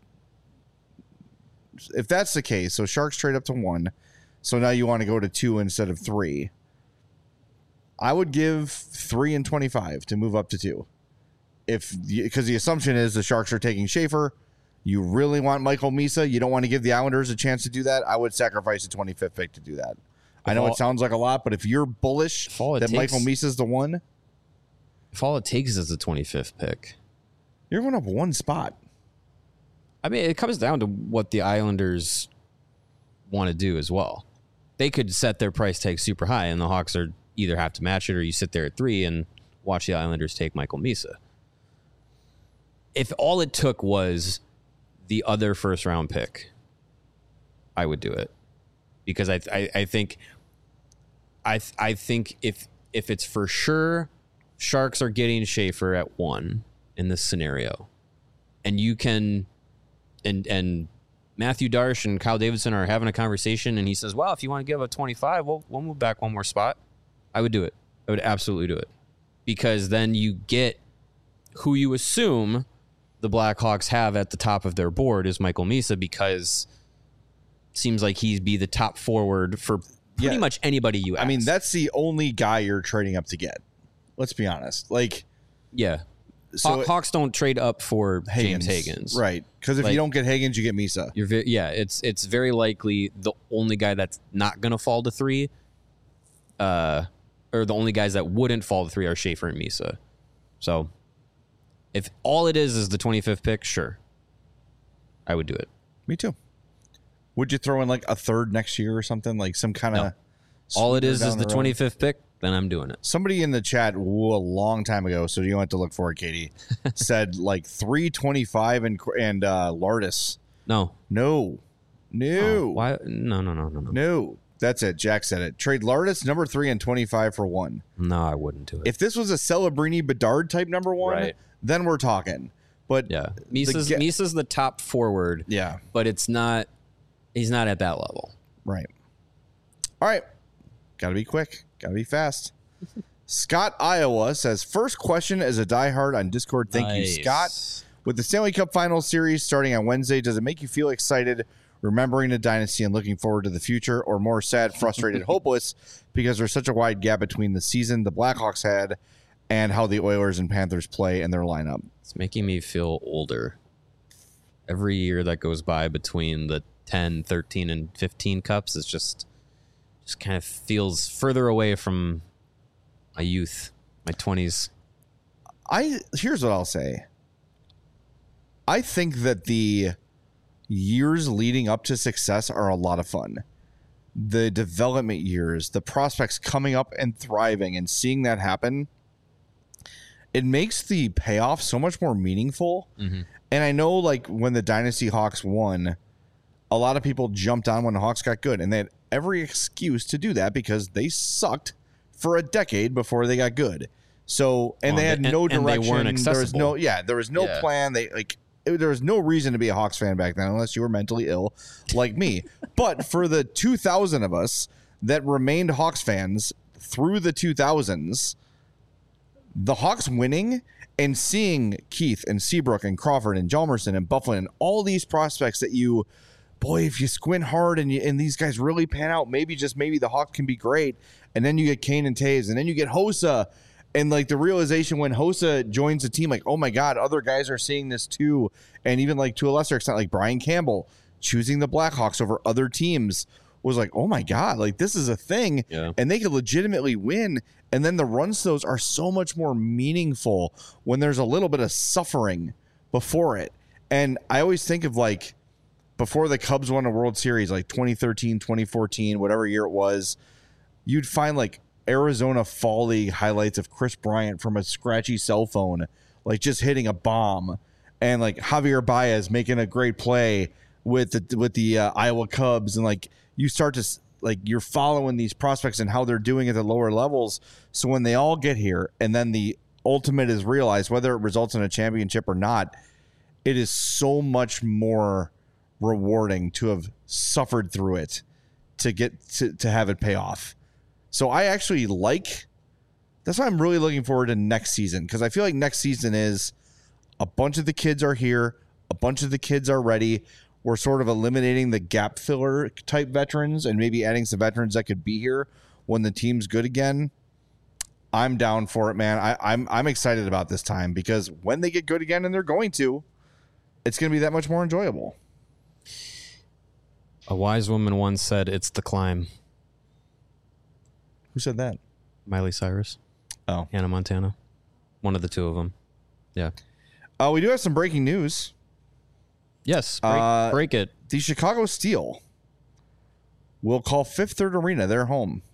if that's the case, so Sharks trade up to 1, so now you want to go to 2 instead of 3. I would give 3 and 25 to move up to 2. Because the assumption is the Sharks are taking Schaefer. You really want Michael Misa. You don't want to give the Islanders a chance to do that. I would sacrifice a 25th pick to do that. I know it sounds like a lot, but if you're bullish that Michael Misa is the one, if all it takes is the 25th pick, you're going up 1 spot. I mean, it comes down to what the Islanders want to do as well. They could set their price tag super high, and the Hawks are either have to match it or you sit there at 3 and watch the Islanders take Michael Misa. If all it took was the other first round pick, I would do it, because I think if it's for sure Sharks are getting Schaefer at 1 in this scenario, and you can and Matthew Darsh and Kyle Davidson are having a conversation, and he says, well, if you want to give a 25, we'll move back 1 more spot, I would do it. I would absolutely do it, because then you get who you assume the Blackhawks have at the top of their board is Michael Misa, because it seems like he'd be the top forward for pretty much anybody you ask. I mean, that's the only guy you're trading up to get. Let's be honest. So Hawks don't trade up for James Higgins, right? Because if you don't get Higgins, you get Misa. It's very likely the only guy that's not going to fall to 3, or the only guys that wouldn't fall to 3 are Schaefer and Misa. So if all it is the 25th pick, sure, I would do it. Me too. Would you throw in like a 3rd next year or something, like some kind of? No. All it is the 25th pick. Then I'm doing it. Somebody in the chat a long time ago, so you don't have to look for it, Katie, said like 325 and Lardis. No. Oh, why? No. That's it. Jack said it. Trade Lardis number 3 and 25 for 1. No, I wouldn't do it. If this was a Celebrini Bedard type number 1, right, then we're talking. But yeah, Misa's the top forward. Yeah, but it's not. He's not at that level. Right. All right. Got to be quick. Got to be fast. Scott Iowa says, first question as a diehard on Discord. Thank you, Scott. With the Stanley Cup Finals series starting on Wednesday, does it make you feel excited remembering the dynasty and looking forward to the future, or more sad, frustrated, hopeless because there's such a wide gap between the season the Blackhawks had and how the Oilers and Panthers play in their lineup? It's making me feel older. Every year that goes by between the 10, 13, and 15 cups is just kind of feels further away from my youth, my 20s. Here's what I'll say. I think that the years leading up to success are a lot of fun. The development years, the prospects coming up and thriving and seeing that happen, it makes the payoff so much more meaningful. Mm-hmm. And I know, like, when the Dynasty Hawks won, a lot of people jumped on when the Hawks got good, and they had every excuse to do that because they sucked for a decade before they got good. So, and they had no direction. And they weren't accessible. There was no plan. There was no reason to be a Hawks fan back then unless you were mentally ill like me. But for the 2,000 of us that remained Hawks fans through the 2000s, the Hawks winning and seeing Keith and Seabrook and Crawford and Hjalmarsson and Bufflin and all these prospects that if you squint hard and these guys really pan out, maybe the Hawks can be great. And then you get Kane and Taves, and then you get Hossa. And like the realization when Hossa joins the team, like, oh my God, other guys are seeing this too. And even like to a lesser extent, like Brian Campbell choosing the Blackhawks over other teams was like, oh my God, like this is a thing. Yeah. And they could legitimately win. And then the runs to those are so much more meaningful when there's a little bit of suffering before it. And I always think of like before the Cubs won a World Series, like 2013, 2014, whatever year it was, you'd find like Arizona Fall League highlights of Chris Bryant from a scratchy cell phone, like just hitting a bomb, and like Javier Baez making a great play with the Iowa Cubs, and like you start to like you're following these prospects and how they're doing at the lower levels. So when they all get here, and then the ultimate is realized, whether it results in a championship or not, it is so much more rewarding to have suffered through it to get to have it pay off. So I actually that's why I'm really looking forward to next season, because I feel like next season is a bunch of the kids are here, a bunch of the kids are ready. We're sort of eliminating the gap filler type veterans and maybe adding some veterans that could be here when the team's good again. I'm down for it, man. I'm excited about this time, because when they get good again, and they're going to, it's going to be that much more enjoyable. A wise woman once said, "It's the climb." Who said that? Miley Cyrus. Oh. Hannah Montana. One of the two of them. Yeah. We do have some breaking news. Yes. Break it. The Chicago Steel will call Fifth Third Arena their home.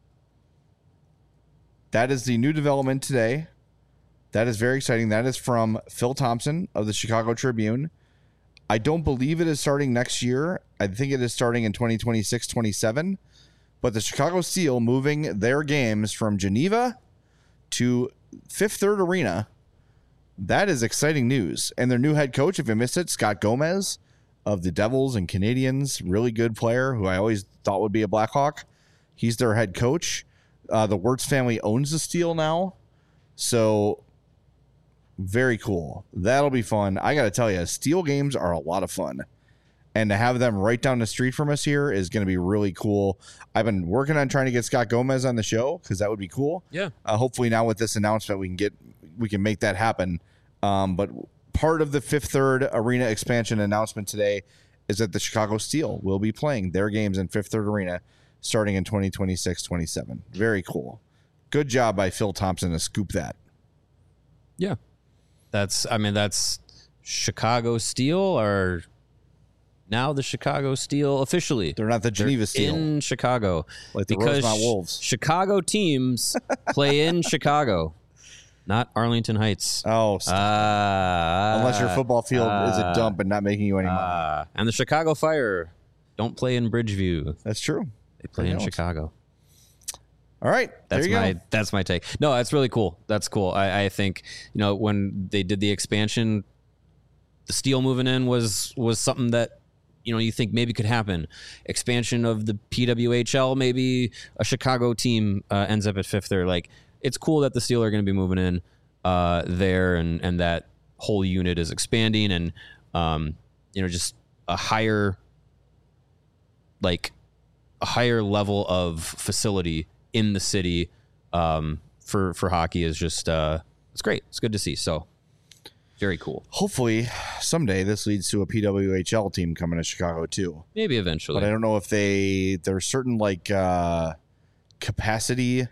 That is the new development today. That is very exciting. That is from Phil Thompson of the Chicago Tribune. I don't believe it is starting next year. I think it is starting in 2026-27. But the Chicago Steel moving their games from Geneva to Fifth Third Arena. That is exciting news. And their new head coach, if you missed it, Scott Gomez of the Devils and Canadiens, really good player who I always thought would be a Blackhawk. He's their head coach. The Wirtz family owns the Steel now. So very cool. That'll be fun. I got to tell you, Steel games are a lot of fun. And to have them right down the street from us here is going to be really cool. I've been working on trying to get Scott Gomez on the show, because that would be cool. Yeah. Hopefully now with this announcement, we can make that happen. But part of the Fifth Third Arena expansion announcement today is that the Chicago Steel will be playing their games in Fifth Third Arena starting in 2026-27. Very cool. Good job by Phil Thompson to scoop that. Yeah. That's Chicago Steel, or now the Chicago Steel officially. They're not the Geneva Steel. In Chicago. Like the because Rosemont Wolves. Chicago teams play in Chicago, not Arlington Heights. Oh, unless your football field is a dump and not making you any money. And the Chicago Fire don't play in Bridgeview. That's true. They play in Chicago. All right. That's my take. No, that's really cool. That's cool. I think, when they did the expansion, the Steel moving in was something that, you think maybe could happen. Expansion of the PWHL, maybe a Chicago team ends up at Fifth Third. Like, it's cool that the Steel are going to be moving in there, and that whole unit is expanding, and just a higher level of facility in the city for hockey is just it's great. It's good to see. So very cool. Hopefully someday this leads to a PWHL team coming to Chicago too. Maybe eventually. But I don't know if there's certain capacity,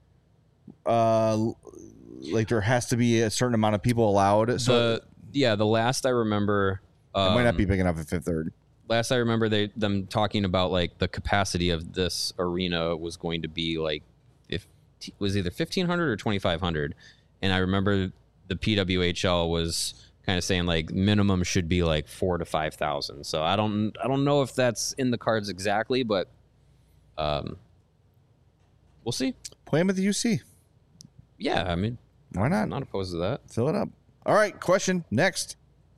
there has to be a certain amount of people allowed. So the last I remember, it might not be big enough at Fifth Third. Last I remember, them talking about the capacity of this arena was going to be was either 1,500 or 2,500, and I remember the PWHL was kind of saying minimum should be 4,000 to 5,000. So I don't know if that's in the cards exactly, but we'll see. Play them at the UC. Yeah, I mean, why not? I'm not opposed to that. Fill it up. All right, question next.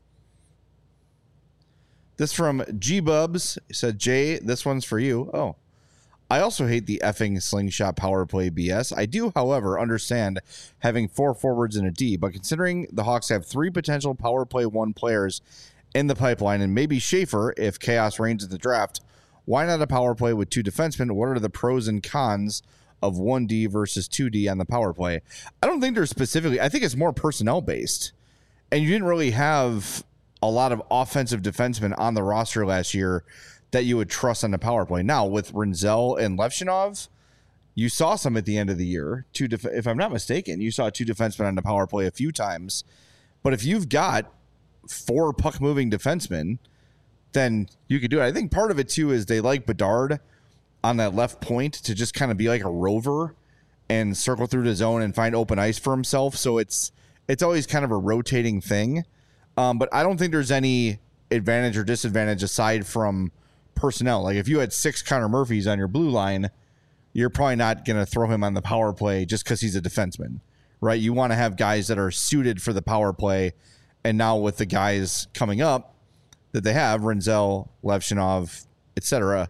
This from G-Bubs. He said, Jay, this one's for you. Oh. I also hate the effing slingshot power play BS. I do, however, understand having 4 forwards and a D, but considering the Hawks have 3 potential power play 1 players in the pipeline, and maybe Schaefer if chaos reigns in the draft, why not a power play with 2 defensemen? What are the pros and cons of 1D versus 2D on the power play? I don't think there's specifically. I think it's more personnel based. And you didn't really have a lot of offensive defensemen on the roster last year that you would trust on the power play. Now, with Rinzel and Levchinov, you saw some at the end of the year. If I'm not mistaken, you saw 2 defensemen on the power play a few times. But if you've got 4 puck-moving defensemen, then you could do it. I think part of it, too, is they like Bedard on that left point to just kind of be like a rover and circle through the zone and find open ice for himself. So it's always kind of a rotating thing. But I don't think there's any advantage or disadvantage aside from personnel. If you had 6 Connor Murphys on your blue line, you're probably not going to throw him on the power play just because he's a defenseman, right? You want to have guys that are suited for the power play. And now with the guys coming up that they have, Rinzel, Levchinov, etc.,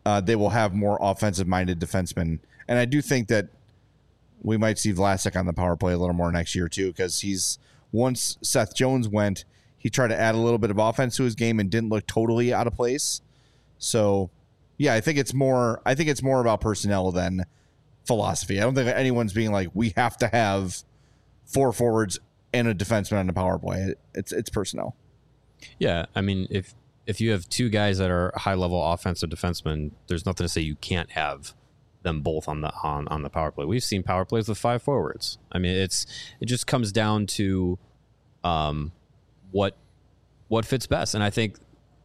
they will have more offensive-minded defensemen. And I do think that we might see Vlasic on the power play a little more next year too, because once Seth Jones went, he tried to add a little bit of offense to his game and didn't look totally out of place. So, yeah, I think it's more about personnel than philosophy. I don't think anyone's being like, we have to have 4 forwards and a defenseman on the power play. It's personnel. Yeah, I mean, if you have 2 guys that are high-level offensive defensemen, there's nothing to say you can't have them both on the power play. We've seen power plays with 5 forwards. I mean, it just comes down to what fits best. And I think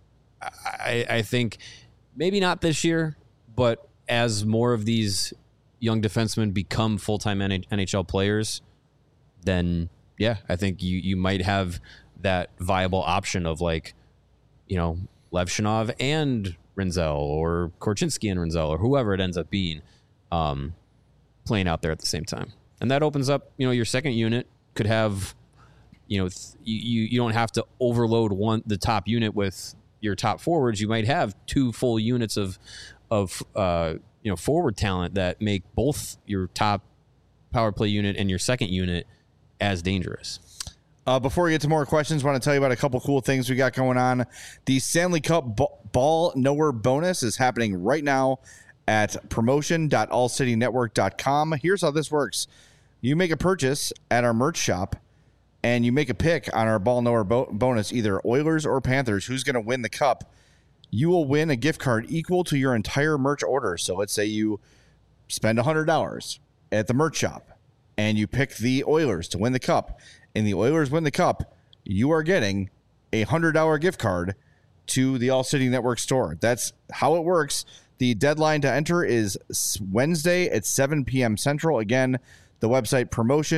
maybe not this year, but as more of these young defensemen become full-time NHL players, then yeah, I think you might have that viable option of like, Levshinov and Rinzel, or Korchinski and Rinzel, or whoever it ends up being, playing out there at the same time. And that opens up, your second unit could have, you don't have to overload the top unit with your top forwards. You might have 2 full units of forward talent that make both your top power play unit and your second unit as dangerous. Before we get to more questions, I want to tell you about a couple cool things we got going on. The Stanley Cup Ball Knower bonus is happening right now at promotion.allcitynetwork.com. Here's how this works. You make a purchase at our merch shop, and you make a pick on our Ball Knower bonus, either Oilers or Panthers, who's going to win the cup. You will win a gift card equal to your entire merch order. So let's say you spend $100 at the merch shop, and you pick the Oilers to win the cup, and the Oilers win the cup, you are getting a $100 gift card to the All City Network store. That's how it works. The deadline to enter is Wednesday at 7 p.m. Central. Again, the website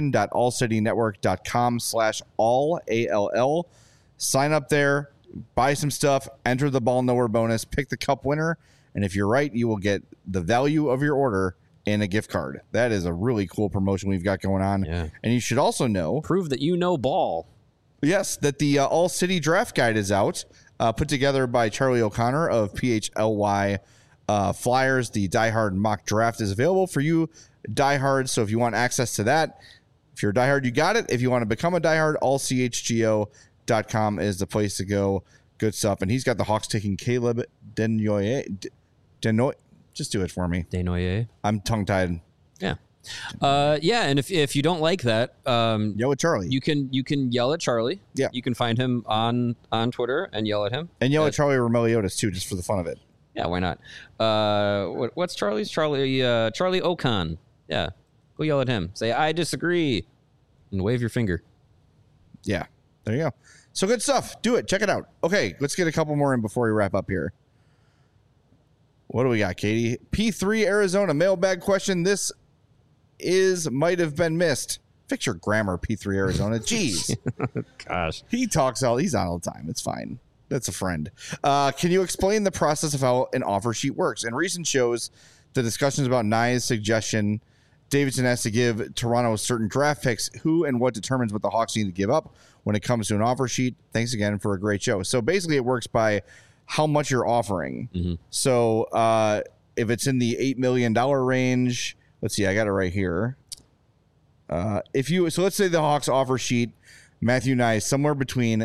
promotion.allcitynetwork.com/all, ALL. Sign up there, buy some stuff, enter the Ball Knower bonus, pick the cup winner, and if you're right, you will get the value of your order in a gift card. That is a really cool promotion we've got going on. Yeah. And you should also know, prove that you know ball. Yes, that the All City Draft Guide is out, put together by Charlie O'Connor of PHLY Flyers. The Die Hard mock draft is available for you diehards. So if you want access to that, if you're a diehard, you got it. If you want to become a diehard, allchgo.com is the place to go. Good stuff. And he's got the Hawks taking Caleb Denoyer. Just do it for me. Denoyer. I'm tongue-tied. Yeah. And if you don't like that, yell at Charlie. You can yell at Charlie. Yeah. You can find him on Twitter and yell at him. And yell at Charlie Romeliotis too, just for the fun of it. Yeah, why not? What's Charlie's? Charlie Ocon. Yeah. Go yell at him. Say, I disagree. And wave your finger. Yeah. There you go. So good stuff. Do it. Check it out. Okay, let's get a couple more in before we wrap up here. What do we got, Katie? P3 Arizona mailbag question. This might have been missed. Fix your grammar, P3 Arizona. Jeez. Gosh. He's on all the time. It's fine. That's a friend. Can you explain the process of how an offer sheet works? In recent shows, the discussions about Nye's suggestion, Davidson has to give Toronto certain draft picks. Who and what determines what the Hawks need to give up when it comes to an offer sheet? Thanks again for a great show. So basically it works by how much you're offering. Mm-hmm. So if it's in the $8 million range, let's see, I got it right here. So let's say the Hawks offer sheet, Matthew Nye, somewhere between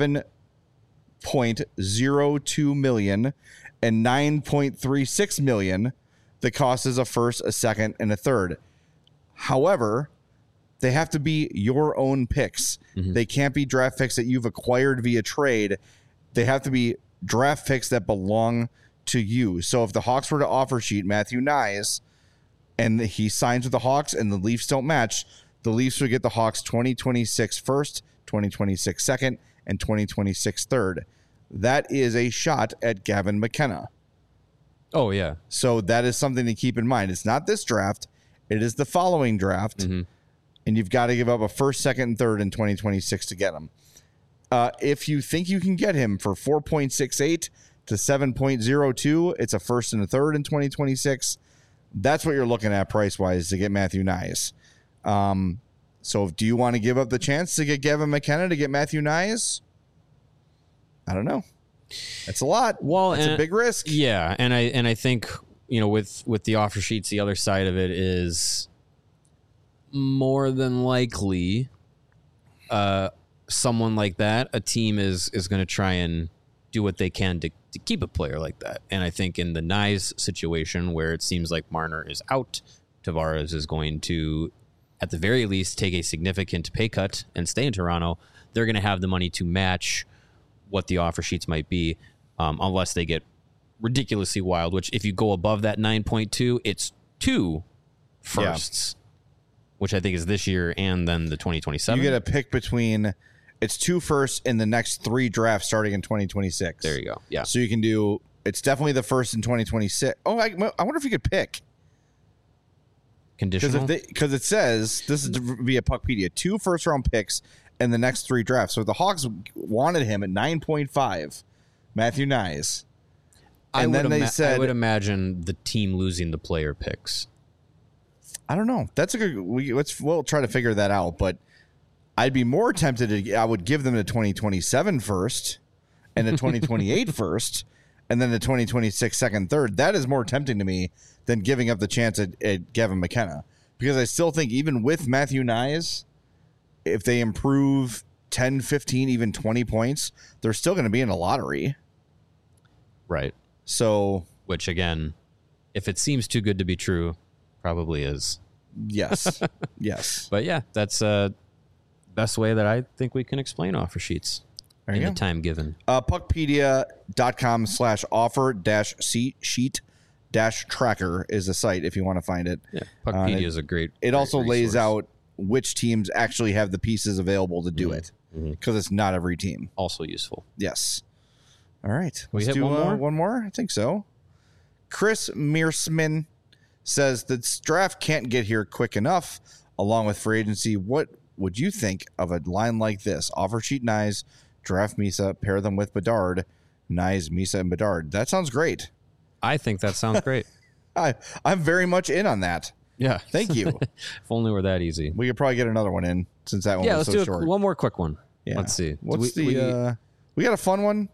$7.02 million and $9.36 million. The cost is a first, a second, and a third. However, they have to be your own picks. Mm-hmm. They can't be draft picks that you've acquired via trade. They have to be draft picks that belong to you. So if the Hawks were to offer sheet Matthew Nyes and he signs with the Hawks and the Leafs don't match, the Leafs would get the Hawks 2026 first, 2026 second, and 2026 third. That is a shot at Gavin McKenna. Oh, yeah. So that is something to keep in mind. It's not this draft. It is the following draft. Mm-hmm. And you've got to give up a first, second, and third in 2026 to get him. If you think you can get him for 4.68 to 7.02, it's a first and a third in 2026. That's what you're looking at price-wise to get Matthew Nyes. So do you want to give up the chance to get Gavin McKenna to get Matthew Nyes? I don't know. It's a lot. Well, it's a big risk. Yeah, and I think, you know, with the offer sheets, the other side of it is more than likely someone like that, a team is going to try and do what they can to keep a player like that. And I think in the Nyes situation, where it seems like Marner is out, Tavares is going to, at the very least, take a significant pay cut and stay in Toronto. They're going to have the money to match what the offer sheets might be, unless they get ridiculously wild, which if you go above that 9.2, it's 2 firsts, which I think is this year and then the 2027. You get a pick between, it's 2 firsts in the next 3 drafts starting in 2026. There you go. Yeah. So you can do, it's definitely the first in 2026. Oh, I wonder if you could pick. Conditional? Because it says, this is via Puckpedia, 2 first-round picks in the next 3 drafts. So the Hawks wanted him at 9.5, Matthew Nyes. And then they said, I would imagine the team losing the player picks. I don't know. That's a good, we'll try to figure that out. But I'd be more tempted to, I would give them the 2027 first and the 2028 first, and then the 2026 second, third. That is more tempting to me than giving up the chance at Gavin McKenna. Because I still think even with Matthew Nyes, if they improve 10, 15, even 20 points, they're still going to be in a lottery. Right. So, which again, if it seems too good to be true, probably is. Yes. Yes. But yeah, that's best way that I think we can explain offer sheets in the time given. Puckpedia.com/offer-sheet-tracker is the site if you want to find it. Yeah, Puckpedia is a great. It also resource. lays out which teams actually have the pieces available to do it, because it's not every team. Also useful. Yes. All right. We Let's hit do one more? one more? I think so. Chris Mearsman says the draft can't get here quick enough along with free agency. What would you think of a line like this? Offer sheet Nyes, draft Misa, pair them with Bedard, Nyes, Misa, and Bedard. That sounds great. I think that sounds great. I'm very much in on that. Yeah. Thank you. If only were that easy. We could probably get another one in since that one was let's so do short. one more quick one. Yeah. Let's see. What's we got a fun one?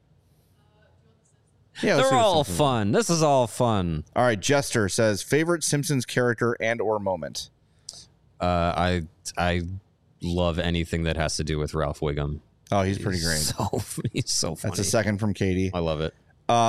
Yeah, they're all fun. This is all fun. All right, Jester says favorite Simpsons character and or moment. I love anything that has to do with Ralph Wiggum. Oh, he's pretty great. He's so funny. That's a second from Katie. I love it.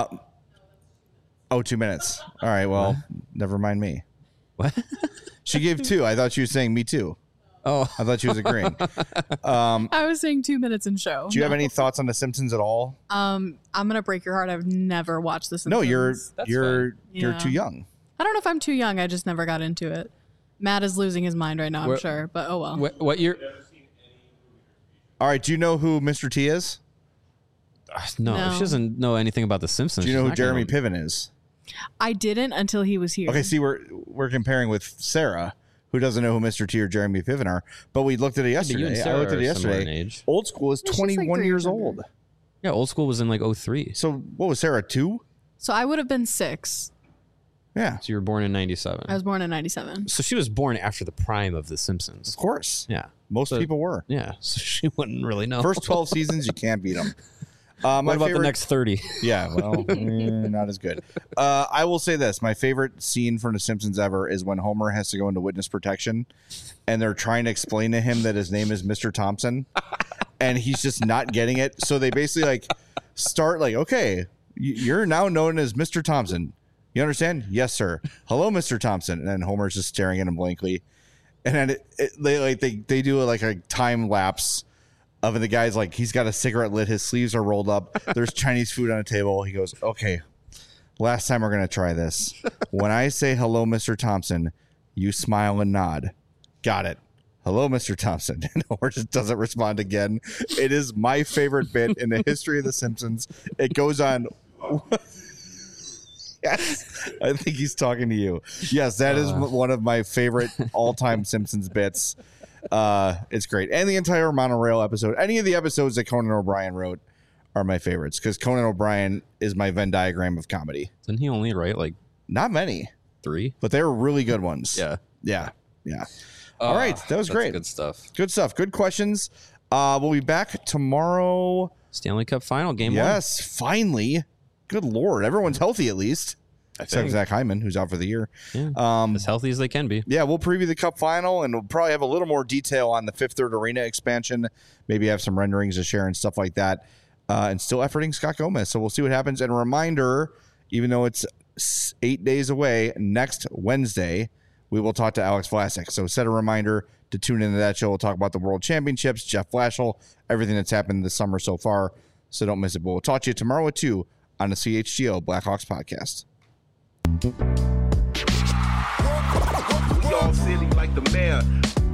2 minutes. All right, well, never mind me. What? She gave 2. I thought she was saying me too. Oh, I thought she was agreeing. I was saying 2 minutes in show. Do you have any thoughts on The Simpsons at all? I'm gonna break your heart. I've never watched The Simpsons. No, you're Yeah. too young. I don't know if I'm too young. I just never got into it. Matt is losing his mind right now, I'm sure. But oh well. What year? All right, do you know who Mr. T is? No, she doesn't know anything about The Simpsons. Do you know She's who not Jeremy gonna- Piven is? I didn't until he was here. Okay, see, we're comparing with Sarah, who doesn't know who Mr. T or Jeremy Piven are, but we looked at it you yesterday. and I Sarah looked at it are similar yesterday. in age. Old School is Yeah, she's like 21 3 years years younger. old. Yeah, Old School was in like 03. So what was Sarah, 2? So I would have been 6. Yeah, So you were born in 97. I was born in 97. So she was born after the prime of The Simpsons. of course. Yeah. Most people were. Yeah. So she wouldn't really know. First 12 seasons, you can't beat them. what about the next 30? Yeah, well, not as good. I will say this. My favorite scene from The Simpsons ever is when Homer has to go into witness protection, and they're trying to explain to him that his name is Mr. Thompson, and he's just not getting it. So they basically like start like, okay, you're now known as Mr. Thompson. You understand? Yes, sir. Hello, Mr. Thompson. And then Homer's just staring at him blankly. And then they do like a time lapse of the guy's like, he's got a cigarette lit, his sleeves are rolled up, there's Chinese food on a table. He goes, okay, last time we're gonna try this. When I say hello, Mr. Thompson, you smile and nod. Got it. Hello, Mr. Thompson. And Homer just doesn't respond again. It is my favorite bit in the history of The Simpsons. It goes on. Yes, I think he's talking to you. Yes, that is one of my favorite all-time Simpsons bits. It's great. And the entire monorail episode, any of the episodes that Conan O'Brien wrote are my favorites, because Conan O'Brien is my Venn diagram of comedy. Didn't he only write like Not many, 3? but they were really good ones. Yeah. All right, that was great. Good stuff. Good stuff. Good questions. We'll be back tomorrow Stanley Cup final, game 1. Yes, finally. Good Lord. Everyone's healthy at least. Except Zach Hyman, who's out for the year. Yeah, as healthy as they can be. Yeah, we'll preview the Cup final, and we'll probably have a little more detail on the Fifth Third Arena expansion. Maybe have some renderings to share and stuff like that. And still efforting Scott Gomez. So we'll see what happens. And a reminder, even though it's 8 days away, next Wednesday, we will talk to Alex Vlasic. So set a reminder to tune into that show. We'll talk about the World Championships, Jeff Blashill, everything that's happened this summer so far. So don't miss it. But we'll talk to you tomorrow at 2 on the CHGO Blackhawks podcast. We all silly like the mayor.